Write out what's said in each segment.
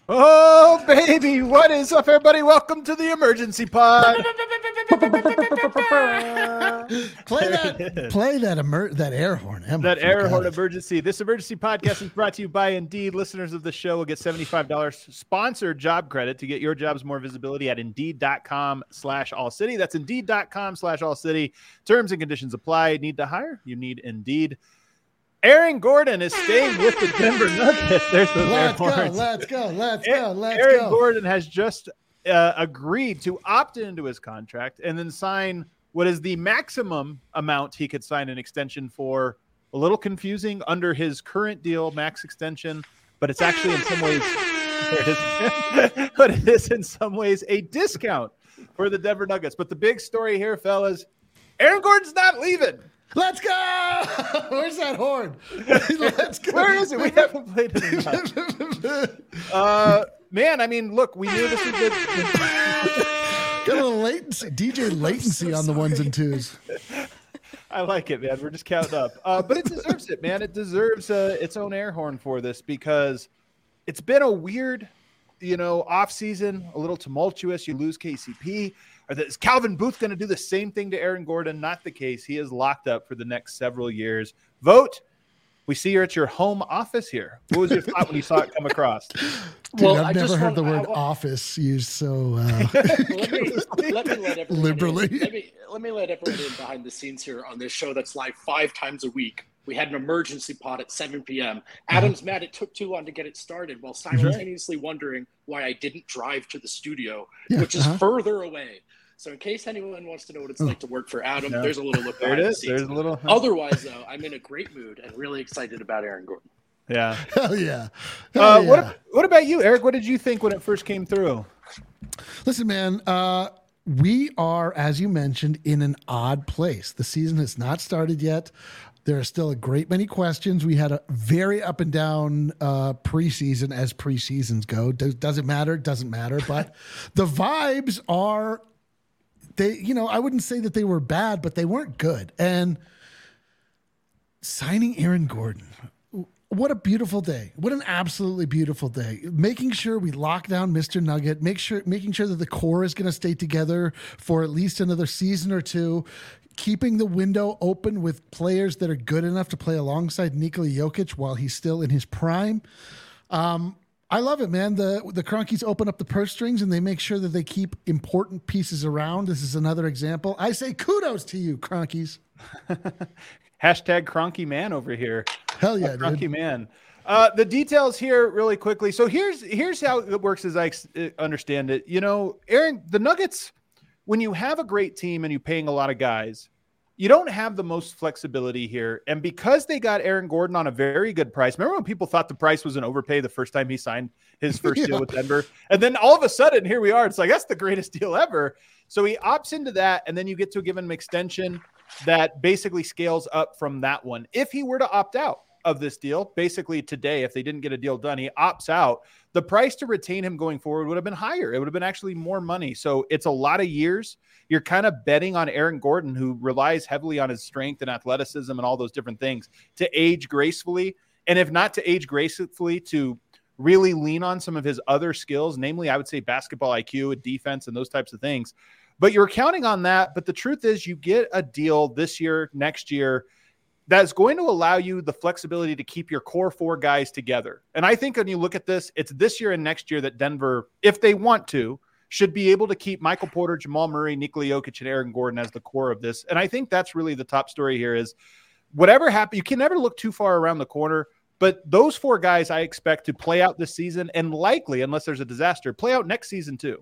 Oh, baby. What is up, everybody? Welcome to the emergency pod. Play that air horn. Emma, That air horn it. emergency. This emergency podcast is brought to you by Indeed. Listeners of the show will get $75 sponsored job credit to get your jobs more visibility at Indeed.com/all-city. That's Indeed.com/all-city. Terms and conditions apply. Need to hire? You need Indeed. Aaron Gordon is staying with the Denver Nuggets. There's those air horns. Let's go. Aaron Gordon has just agreed to opt into his contract and then sign what is the maximum amount he could sign an extension for. A little confusing under his current deal, max extension, but it's actually in some ways, but it is in some ways a discount for the Denver Nuggets. But the big story here, fellas, Aaron Gordon's not leaving. Let's go! Where's that horn? Let's go. Where is it? We haven't played it enough. Man, I mean, look, we knew this was good. Got a little latency, DJ latency on the ones and twos. I like it, man. We're just counting up. But it deserves it, man. It deserves its own air horn for this because it's been a weird, off season, a little tumultuous. You lose KCP. Is Calvin Booth going to do the same thing to Aaron Gordon? Not the case. He is locked up for the next several years. Vote. We see you're at your home office here. What was your thought when you saw it come across? Dude, I've never heard the word office used so let me let liberally. Let me let everyone in behind the scenes here on this show that's live 5 times a week. We had an emergency pod at 7 p.m. Adam's mad it took too long to get it started while simultaneously wondering why I didn't drive to the studio, which is further away. So in case anyone wants to know what it's like to work for Adam, there's a little look behind the scenes. There's a little. Otherwise, though, I'm in a great mood and really excited about Aaron Gordon. Yeah. Hell yeah. What about you, Eric? What did you think when it first came through? Listen, man, we are, as you mentioned, in an odd place. The season has not started yet. There are still a great many questions. We had a very up and down preseason as preseasons go. Does it matter? Doesn't matter. But the vibes are, I wouldn't say that they were bad, but they weren't good. And signing Aaron Gordon, what a beautiful day. What an absolutely beautiful day. Making sure we lock down Mr. Nugget, making sure that the core is going to stay together for at least another season or two, keeping the window open with players that are good enough to play alongside Nikola Jokic while he's still in his prime. I love it, man. The Cronkies open up the purse strings and they make sure that they keep important pieces around. This is another example. I say kudos to you, Cronkies. Hashtag Cronky man over here. Hell yeah, Cronky dude. man. The details here really quickly. So here's how it works as I understand it. Aaron, the Nuggets, when you have a great team and you're paying a lot of guys, you don't have the most flexibility here. And because they got Aaron Gordon on a very good price, remember when people thought the price was an overpay the first time he signed his first deal with Denver? And then all of a sudden, here we are. It's like, that's the greatest deal ever. So he opts into that, and then you get to give him an extension that basically scales up from that one. If he were to opt out of this deal, basically today, if they didn't get a deal done, he opts out, the price to retain him going forward would have been higher. It would have been actually more money. So it's a lot of years. You're kind of betting on Aaron Gordon, who relies heavily on his strength and athleticism and all those different things, to age gracefully. And if not to age gracefully, to really lean on some of his other skills, namely, I would say basketball IQ, defense, and those types of things. But you're counting on that. But the truth is, you get a deal this year, next year, that's going to allow you the flexibility to keep your core 4 guys together. And I think when you look at this, it's this year and next year that Denver, if they want to, should be able to keep Michael Porter, Jamal Murray, Nikola Jokic, and Aaron Gordon as the core of this. And I think that's really the top story here is whatever happens, you can never look too far around the corner, but those 4 guys I expect to play out this season and likely, unless there's a disaster, play out next season too.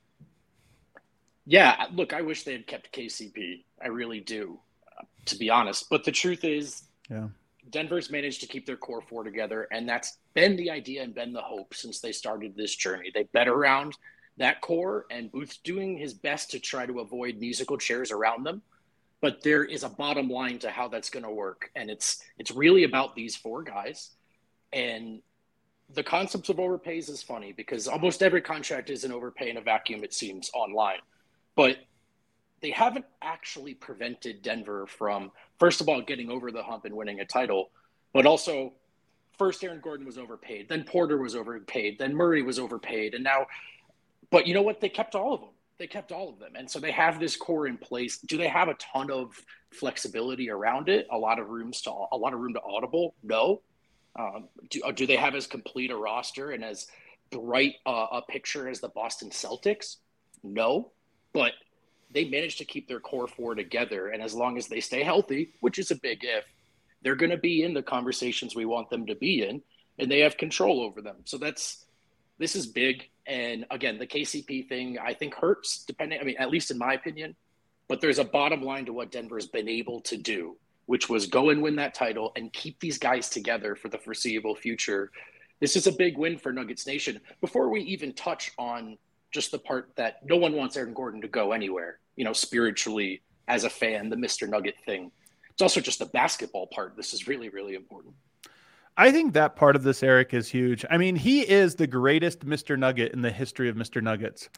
Yeah, look, I wish they had kept KCP. I really do, to be honest. But the truth is, Denver's managed to keep their core 4 together, and that's been the idea and been the hope since they started this journey. They bet around that core, and Booth's doing his best to try to avoid musical chairs around them. But there is a bottom line to how that's going to work, and it's really about these 4 guys. And the concept of overpays is funny because almost every contract is an overpay in a vacuum, it seems, online. But they haven't actually prevented Denver from, first of all, getting over the hump and winning a title, but also first Aaron Gordon was overpaid, then Porter was overpaid, then Murray was overpaid, and now, but you know what? They kept all of them. They kept all of them. And so they have this core in place. Do they have a ton of flexibility around it? A lot of room to audible? No. Do they have as complete a roster and as bright a picture as the Boston Celtics? No. But they managed to keep their core four together. And as long as they stay healthy, which is a big if, they're going to be in the conversations we want them to be in, and they have control over them. So this is big. And again, the KCP thing, I think hurts at least in my opinion, but there's a bottom line to what Denver's been able to do, which was go and win that title and keep these guys together for the foreseeable future. This is a big win for Nuggets Nation. Before we even touch on just the part that no one wants Aaron Gordon to go anywhere, spiritually as a fan, the Mr. Nugget thing. It's also just the basketball part. This is really, really important. I think that part of this, Eric, is huge. I mean, he is the greatest Mr. Nugget in the history of Mr. Nuggets.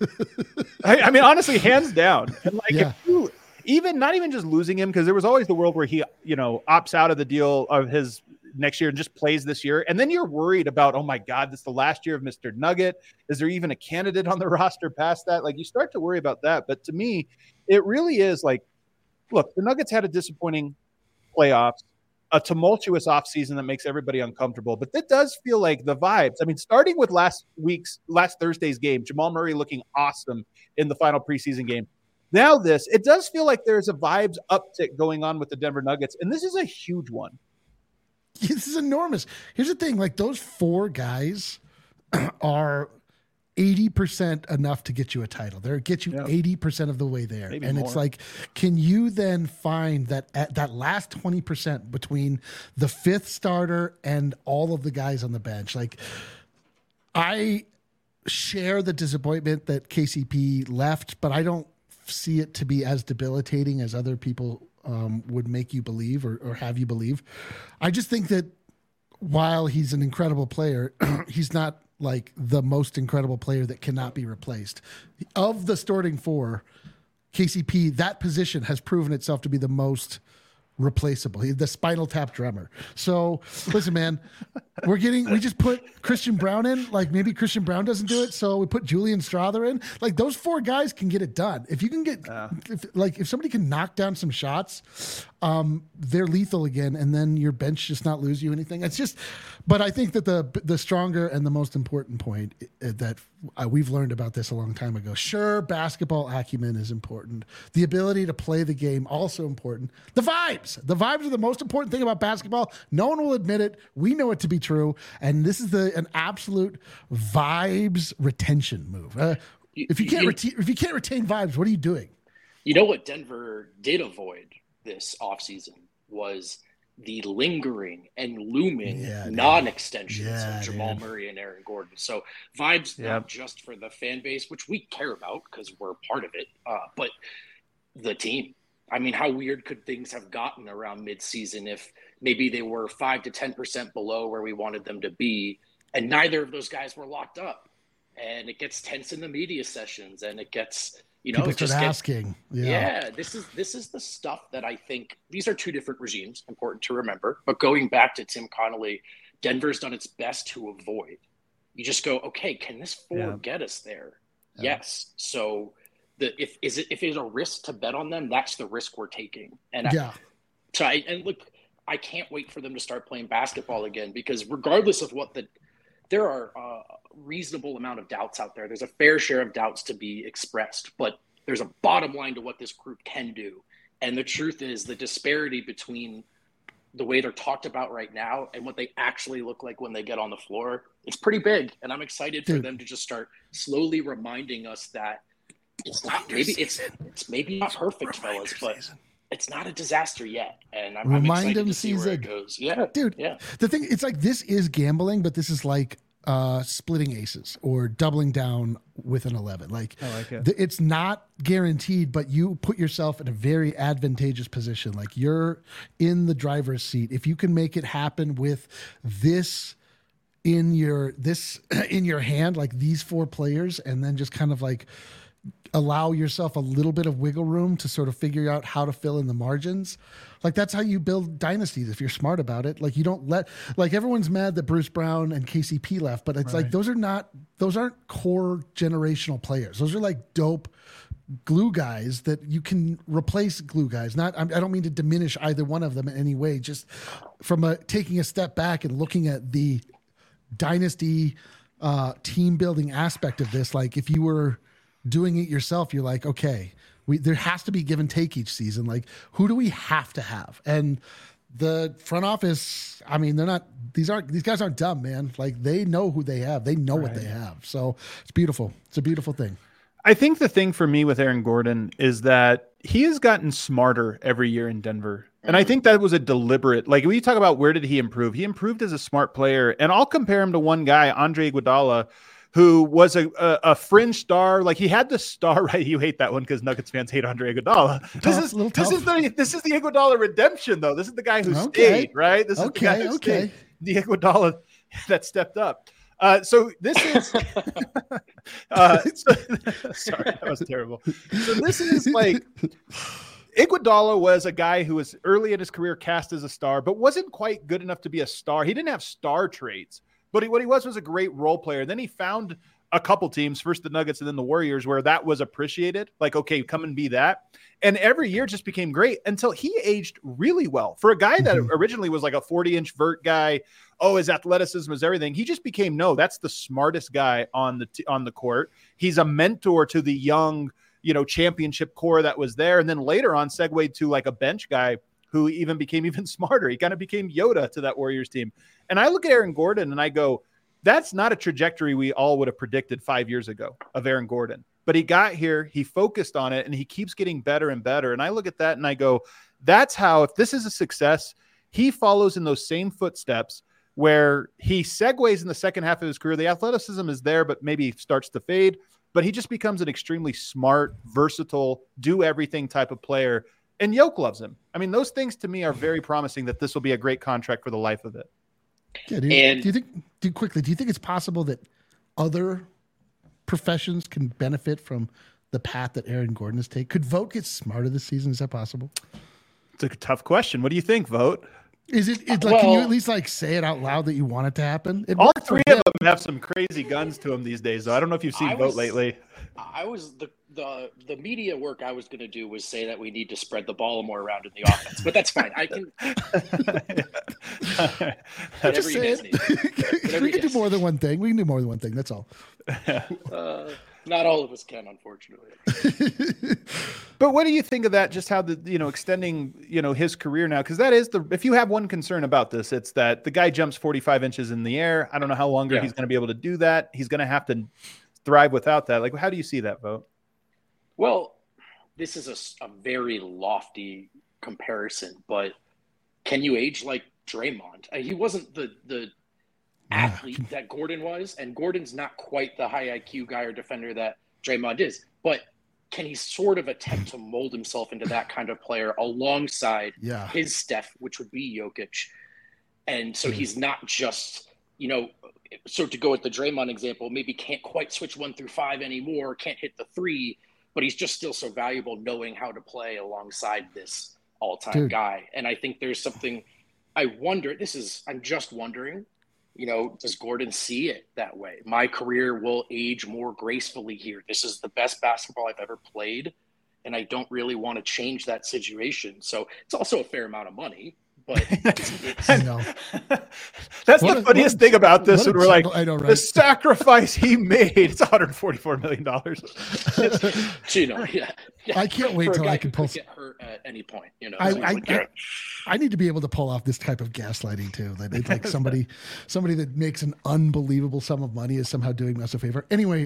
I mean, honestly, hands down. And if you, not even just losing him, because there was always the world where he, opts out of the deal of his next year and just plays this year. And then you're worried about, oh my God, this is the last year of Mr. Nugget. Is there even a candidate on the roster past that? You start to worry about that. But to me, it really is look, the Nuggets had a disappointing playoffs, a tumultuous offseason that makes everybody uncomfortable. But that does feel like the vibes. I mean, starting with last Thursday's game, Jamal Murray looking awesome in the final preseason game. Now it does feel like there's a vibes uptick going on with the Denver Nuggets. And this is a huge one. This is enormous. Here's the thing. Those four guys are 80% enough to get you a title. They'll get you 80% of the way there. Maybe and more. It's can you then find that last 20% between the fifth starter and all of the guys on the bench? I share the disappointment that KCP left, but I don't see it to be as debilitating as other people would make you believe or have you believe. I just think that while he's an incredible player, he's not the most incredible player that cannot be replaced. Of the starting four, KCP, that position has proven itself to be the most replaceable. He's the Spinal Tap drummer. So listen, man, we just put Christian Braun in. Maybe Christian Braun doesn't do it, so we put Julian Strawther in. Those four guys can get it done. If you can get, if somebody can knock down some shots, they're lethal again, and then your bench just not lose you anything. It's just, but I think that the stronger and the most important point that we've learned about this a long time ago. Sure, basketball acumen is important. The ability to play the game also important. The vibes are the most important thing about basketball. No one will admit it. We know it to be true, and this is an absolute vibes retention move. If you can't retain vibes, what are you doing? You know what Denver did avoid this offseason was the lingering and looming non-extensions of Jamal Murray and Aaron Gordon. So vibes not just for the fan base, which we care about because we're part of it, but the team. I mean, how weird could things have gotten around midseason if maybe they were 5 to 10% below where we wanted them to be, and neither of those guys were locked up, and it gets tense in the media sessions, and it gets people start asking. This is the stuff that I think these are two different regimes, important to remember. But going back to Tim Connolly, Denver's done its best to avoid. You just go, okay, can this four get us there? Yeah. Yes. So if it's a risk to bet on them, that's the risk we're taking. And look, I can't wait for them to start playing basketball again, because regardless of there are a reasonable amount of doubts out there. There's a fair share of doubts to be expressed, but there's a bottom line to what this group can do. And the truth is the disparity between the way they're talked about right now and what they actually look like when they get on the floor, it's pretty big. And I'm excited for them to just start slowly reminding us that it's not maybe not perfect, fellas, but it's not a disaster yet. And I'm excited to see where it goes. Yeah, dude. Yeah. The thing, it's this is gambling, but this is splitting aces or doubling down with an 11. I like it. It's not guaranteed, but you put yourself in a very advantageous position. You're in the driver's seat. If you can make it happen with this in your hand, these four players, and then just kind of allow yourself a little bit of wiggle room to sort of figure out how to fill in the margins. Like that's how you build dynasties if you're smart about it. Like you don't let, like everyone's mad that Bruce Brown and KCP left, but it's like those aren't core generational players. Those are like dope glue guys that you can replace glue guys. I don't mean to diminish either one of them in any way, just from taking a step back and looking at the dynasty team building aspect of this. Like if you were doing it yourself, you're like, okay, there has to be give and take each season. Like who do we have to have? And the front office, I mean, these guys aren't dumb, man. Like they know who they have. They know what they have. So it's beautiful. It's a beautiful thing. I think the thing for me with Aaron Gordon is that he has gotten smarter every year in Denver. And I think that was a deliberate, like when you talk about where did he improve? He improved as a smart player. And I'll compare him to one guy, Andre Iguodala, who was a fringe star. Like he had the star, right? You hate that one because Nuggets fans hate Andre Iguodala. This is the Iguodala redemption, though. This is the guy who stayed, right? This is the guy who stayed. The Iguodala that stepped up. So this is sorry, that was terrible. So this is like Iguodala was a guy who was early in his career cast as a star, but wasn't quite good enough to be a star. He didn't have star traits, but what he was a great role player. Then he found a couple teams, first the Nuggets and then the Warriors, where that was appreciated. Like, okay, come and be that. And every year just became great until he aged really well. For a guy that originally was like a 40-inch vert guy, his athleticism is everything. He just became, that's the smartest guy on the court. He's a mentor to the young, championship core that was there. And then later on segued to like a bench guy who even became even smarter. He kind of became Yoda to that Warriors team. And I look at Aaron Gordon and I go, that's not a trajectory we all would have predicted 5 years ago of Aaron Gordon. But he got here, he focused on it, and he keeps getting better and better. And I look at that and I go, that's how, if this is a success, he follows in those same footsteps where he segues in the second half of his career. The athleticism is there, but maybe starts to fade. But he just becomes an extremely smart, versatile, do-everything type of player. And Yoke loves him. I mean, those things to me are very promising that this will be a great contract for the life of it. Yeah, do you think it's possible that other professions can benefit from the path that Aaron Gordon has taken? Could Vogt get smarter this season? Is that possible? It's a tough question. What do you think, Vogt? Is it like, can you at least like say it out loud that you want it to happen? All three of them have some crazy guns to them these days, though. I don't know if you've seen Vogt lately. I was the media work I was going to do was say that we need to spread the ball more around in the offense, but that's fine. I can. Just say it. We can do more than one thing. We can do more than one thing. That's all. Not all of us can, unfortunately. But what do you think of that? Just how extending, his career now, because that is if you have one concern about this, it's that the guy jumps 45 inches in the air. I don't know how longer he's going to be able to do that. He's going to have to thrive without that. Like, how do you see that, Vogt? Well, this is a very lofty comparison, but can you age like Draymond? He wasn't the athlete that Gordon was, and Gordon's not quite the high IQ guy or defender that Draymond is, but can he sort of attempt to mold himself into that kind of player alongside his Steph, which would be Jokic? And so he's not just, so to go with the Draymond example, maybe can't quite switch 1 through 5 anymore, can't hit the 3, but he's just still so valuable knowing how to play alongside this all-time guy. And I think there's something I'm just wondering, does Gordon see it that way? My career will age more gracefully here. This is the best basketball I've ever played, and I don't really want to change that situation. So it's also a fair amount of money. But that's the funniest thing about this. We're like, the sacrifice he made. It's $144 million. I can't wait till I can pull. Get hurt at any point. I need to be able to pull off this type of gaslighting too. It's like somebody that makes an unbelievable sum of money is somehow doing us a favor. Anyway,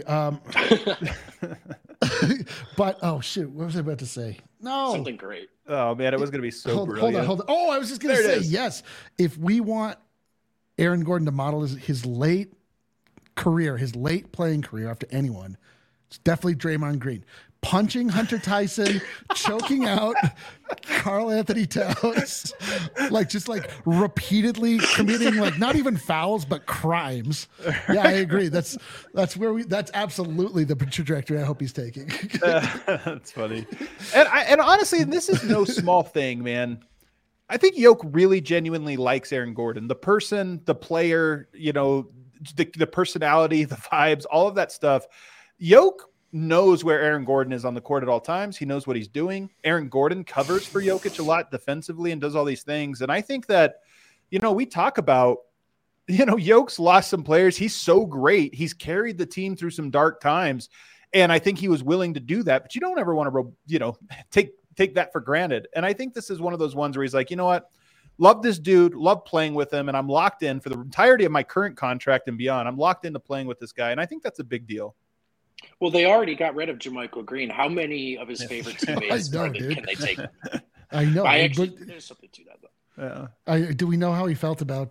but oh shoot, what was I about to say? No, something great. Oh man, it was going to be so brilliant. Hold on. Oh, I was just going to say yes. If we want Aaron Gordon to model his late career, his late playing career after anyone, definitely Draymond Green. Punching Hunter Tyson, choking out Karl Anthony Towns, just repeatedly committing not even fouls but crimes. Yeah, I agree. That's absolutely the trajectory I hope he's taking. That's funny. And honestly, this is no small thing, man. I think Yoke really genuinely likes Aaron Gordon, the person, the player, the personality, the vibes, all of that stuff. Yoke knows where Aaron Gordon is on the court at all times. He knows what he's doing. Aaron Gordon covers for Jokic a lot defensively and does all these things. And I think that, we talk about, Yoke's lost some players. He's so great. He's carried the team through some dark times. And I think he was willing to do that, but you don't ever want to, take that for granted. And I think this is one of those ones where he's like, you know what? Love this dude, love playing with him. And I'm locked in for the entirety of my current contract and beyond. I'm locked into playing with this guy. And I think that's a big deal. Well, they already got rid of JaMychal Green. How many of his favorite teammates can they take? I know. There's something to that, though. Yeah. Do we know how he felt about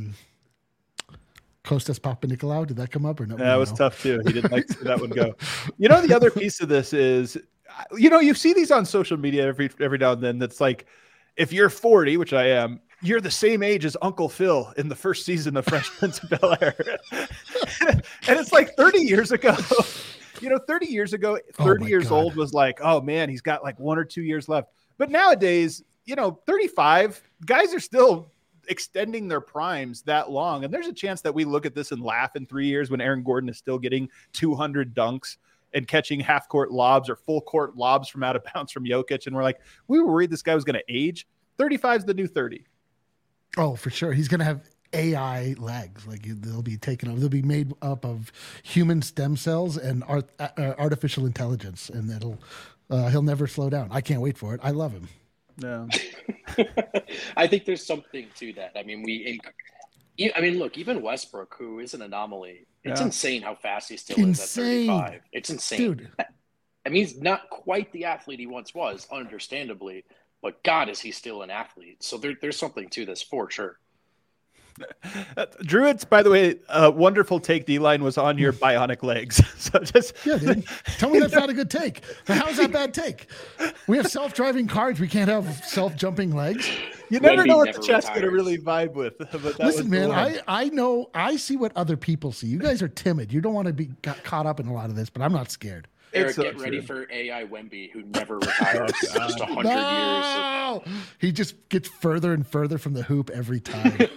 Kostas Papanikolaou? Did that come up or no? That was tough, too. He didn't like to see that one go. The other piece of this is, you see these on social media every now and then. That's like, if you're 40, which I am, you're the same age as Uncle Phil in the first season of Fresh Prince of Bel-Air. And it's like 30 years ago. 30 years ago, 30 years old was like, oh man, he's got 1 or 2 years left. But nowadays, 35 guys are still extending their primes that long. And there's a chance that we look at this and laugh in 3 years when Aaron Gordon is still getting 200 dunks and catching half court lobs or full court lobs from out of bounds from Jokic. And we're like, we were worried this guy was going to age. 35 is the new 30. Oh, for sure. He's going to have AI legs. They'll be taken up. They'll be made up of human stem cells and artificial intelligence, and he'll never slow down. I can't wait for it. I love him. No, I think there's something to that. I mean, look, even Westbrook, who is an anomaly, it's insane how fast he still is at 35. It's insane, dude. I mean, he's not quite the athlete he once was, understandably, but God, is he still an athlete? So there's something to this for sure. Druids, by the way, wonderful take. D-line was on your bionic legs. So dude. Tell me that's not a good take. How's that bad take? We have self-driving cars. We can't have self-jumping legs. You never know what the chat's going to really vibe with. But listen, man, I know. I see what other people see. You guys are timid. You don't want to be caught up in a lot of this, but I'm not scared. Eric, get ready for AI Wemby, who never retires. Just 100 years. He just gets further and further from the hoop every time.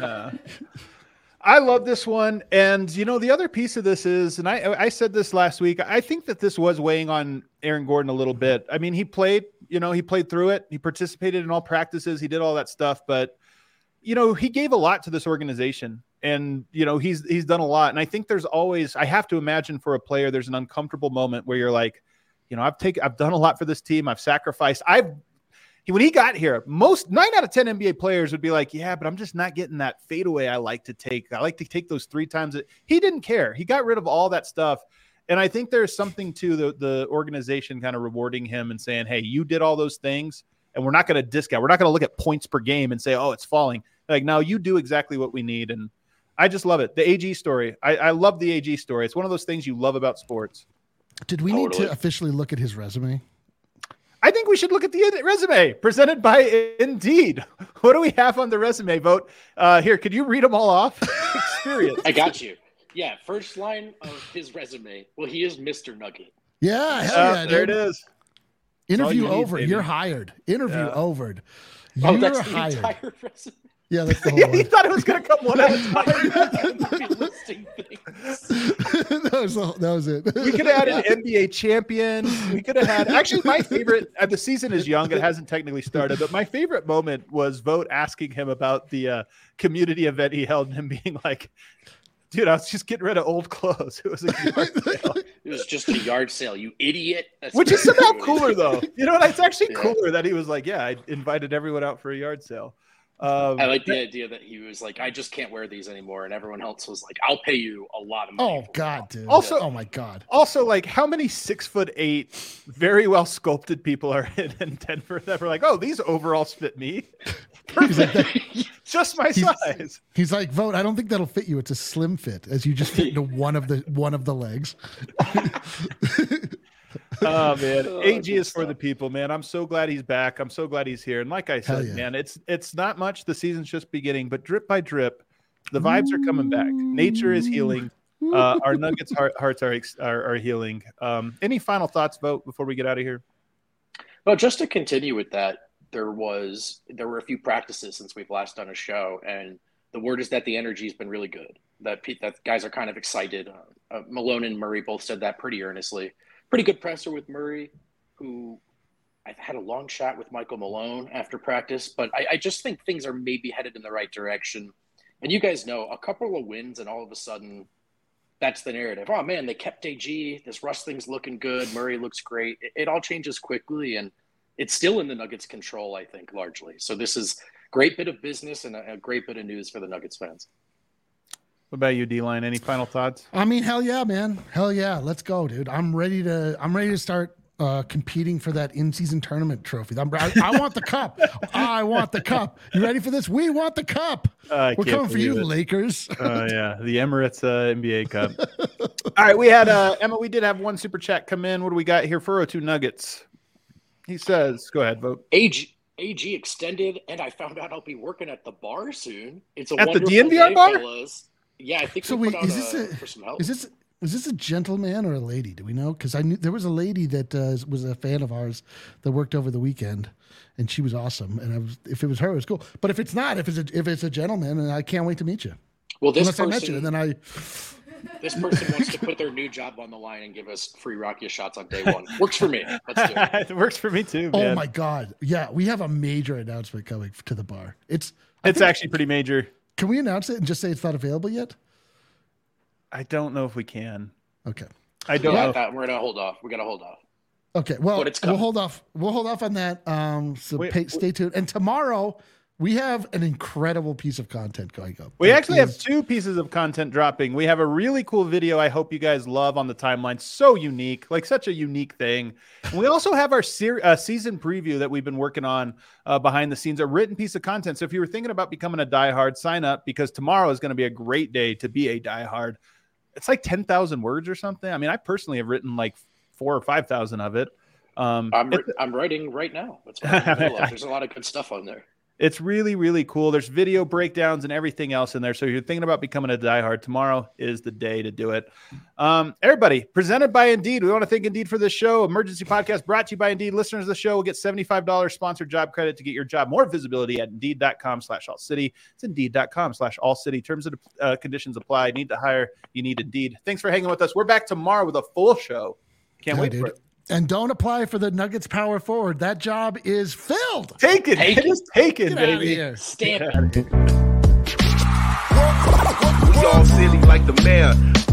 I love this one. And, the other piece of this is, and I said this last week, I think that this was weighing on Aaron Gordon a little bit. I mean, he played through it. He participated in all practices. He did all that stuff. But, he gave a lot to this organization. And, he's done a lot. And I think there's always, I have to imagine for a player, there's an uncomfortable moment where you're like, I've done a lot for this team. I've sacrificed. When he got here, 9 out of 10 NBA players would be like, yeah, but I'm just not getting that fadeaway I like to take. I like to take those 3 times. He didn't care. He got rid of all that stuff. And I think there's something to the organization kind of rewarding him and saying, hey, you did all those things and we're not going to discount. We're not going to look at points per game and say, oh, it's falling. No, you do exactly what we need. And I just love it. The AG story. I love the AG story. It's one of those things you love about sports. Did we need to officially look at his resume? I think we should look at the resume presented by Indeed. What do we have on the resume, Vote? Here, could you read them all off? Experience. I got you. Yeah, first line of his resume. Well, he is Mr. Nugget. Yeah, hell yeah, there it is. Interview over. You're hired. Interview over. You're that's the hired. Entire resume. Yeah, that's the whole one. He thought it was going to come one at a time. That was it. We could have had an NBA champion. We could have had, actually, my favorite, the season is young. It hasn't technically started, but my favorite moment was Vote asking him about the community event he held and him being like, dude, I was just getting rid of old clothes. It was a yard sale. It was just a yard sale, you idiot. Which is somehow cooler, though. You know what? It's actually cooler that he was like, yeah, I invited everyone out for a yard sale. I like the idea that he was like, I just can't wear these anymore. And everyone else was like, I'll pay you a lot of money. Oh, God, dude. Also, oh, my God. Also, like, how many 6'8", very well sculpted people are in Denver that were like, oh, these overalls fit me? Perfect. just my size. He's like, Vogt, I don't think that'll fit you. It's a slim fit, as you just fit into one of the legs. Oh man, AG is for the people, man. I'm so glad he's back. I'm so glad he's here. And like I said, man, it's not much. The season's just beginning, but drip by drip, the vibes are coming back. Nature is healing. Our Nuggets hearts are healing. Any final thoughts, Vogt, before we get out of here? Well, just to continue with that, there were a few practices since we've last done a show, and the word is that the energy has been really good. That guys are kind of excited. Malone and Murray both said that pretty earnestly. Pretty good presser with Murray, who I had a long chat with Michael Malone after practice, but I just think things are maybe headed in the right direction. And you guys know, a couple of wins and all of a sudden that's the narrative. Oh man, they kept AG. This Russ thing's looking good. Murray looks great. It all changes quickly, and it's still in the Nuggets' control, I think, largely. So this is a great bit of business and a great bit of news for the Nuggets fans. What about you, D-Line? Any final thoughts? I mean, hell yeah, man. Hell yeah. Let's go, dude. I'm ready to start competing for that in-season tournament trophy. I want the cup. I want the cup. You ready for this? We want the cup. We're coming for you, Lakers. Yeah, the Emirates NBA Cup. All right, we had Emma. We did have one super chat come in. What do we got here? 402 Nuggets. He says, "Go ahead, Vogt." AG extended, and I found out I'll be working at the bar soon. It's at the DNVR bar. Fellas. Yeah, I think so. Wait, for some help. Is this a gentleman or a lady? Do we know? Because I knew there was a lady that was a fan of ours that worked over the weekend, and she was awesome. And if it was her, it was cool. But if it's not, if it's a gentleman, and I can't wait to meet you. Well, this person wants to put their new job on the line and give us free Rakia shots on day one. Works for me. Let's do it. It works for me too, man. Oh my God. Yeah, we have a major announcement coming to the bar. It's actually pretty major. Can we announce it and just say it's not available yet? I don't know if we can. Okay. I don't know. We're gonna hold off. We gotta hold off. Okay. Well, we'll hold off. We'll hold off on that. Stay tuned. And tomorrow we have an incredible piece of content going up. We actually have two pieces of content dropping. We have a really cool video I hope you guys love on the timeline. So unique, like such a unique thing. And we also have our season preview that we've been working on behind the scenes, a written piece of content. So if you were thinking about becoming a diehard, sign up because tomorrow is going to be a great day to be a diehard. It's like 10,000 words or something. I mean, I personally have written like 4,000 or 5,000 of it. I'm writing right now. There's a lot of good stuff on there. It's really, really cool. There's video breakdowns and everything else in there. So if you're thinking about becoming a diehard, tomorrow is the day to do it. Everybody, presented by Indeed. We want to thank Indeed for this show. Emergency podcast brought to you by Indeed. Listeners of the show will get $75 sponsored job credit to get your job more visibility at Indeed.com/AllCity. It's Indeed.com/AllCity. Terms and conditions apply. Need to hire. You need Indeed. Thanks for hanging with us. We're back tomorrow with a full show. Can't wait for it. And don't apply for the Nuggets power forward. That job is filled. Take it. It is taken, baby. Out of here. Stamp it. We all silly like the mayor.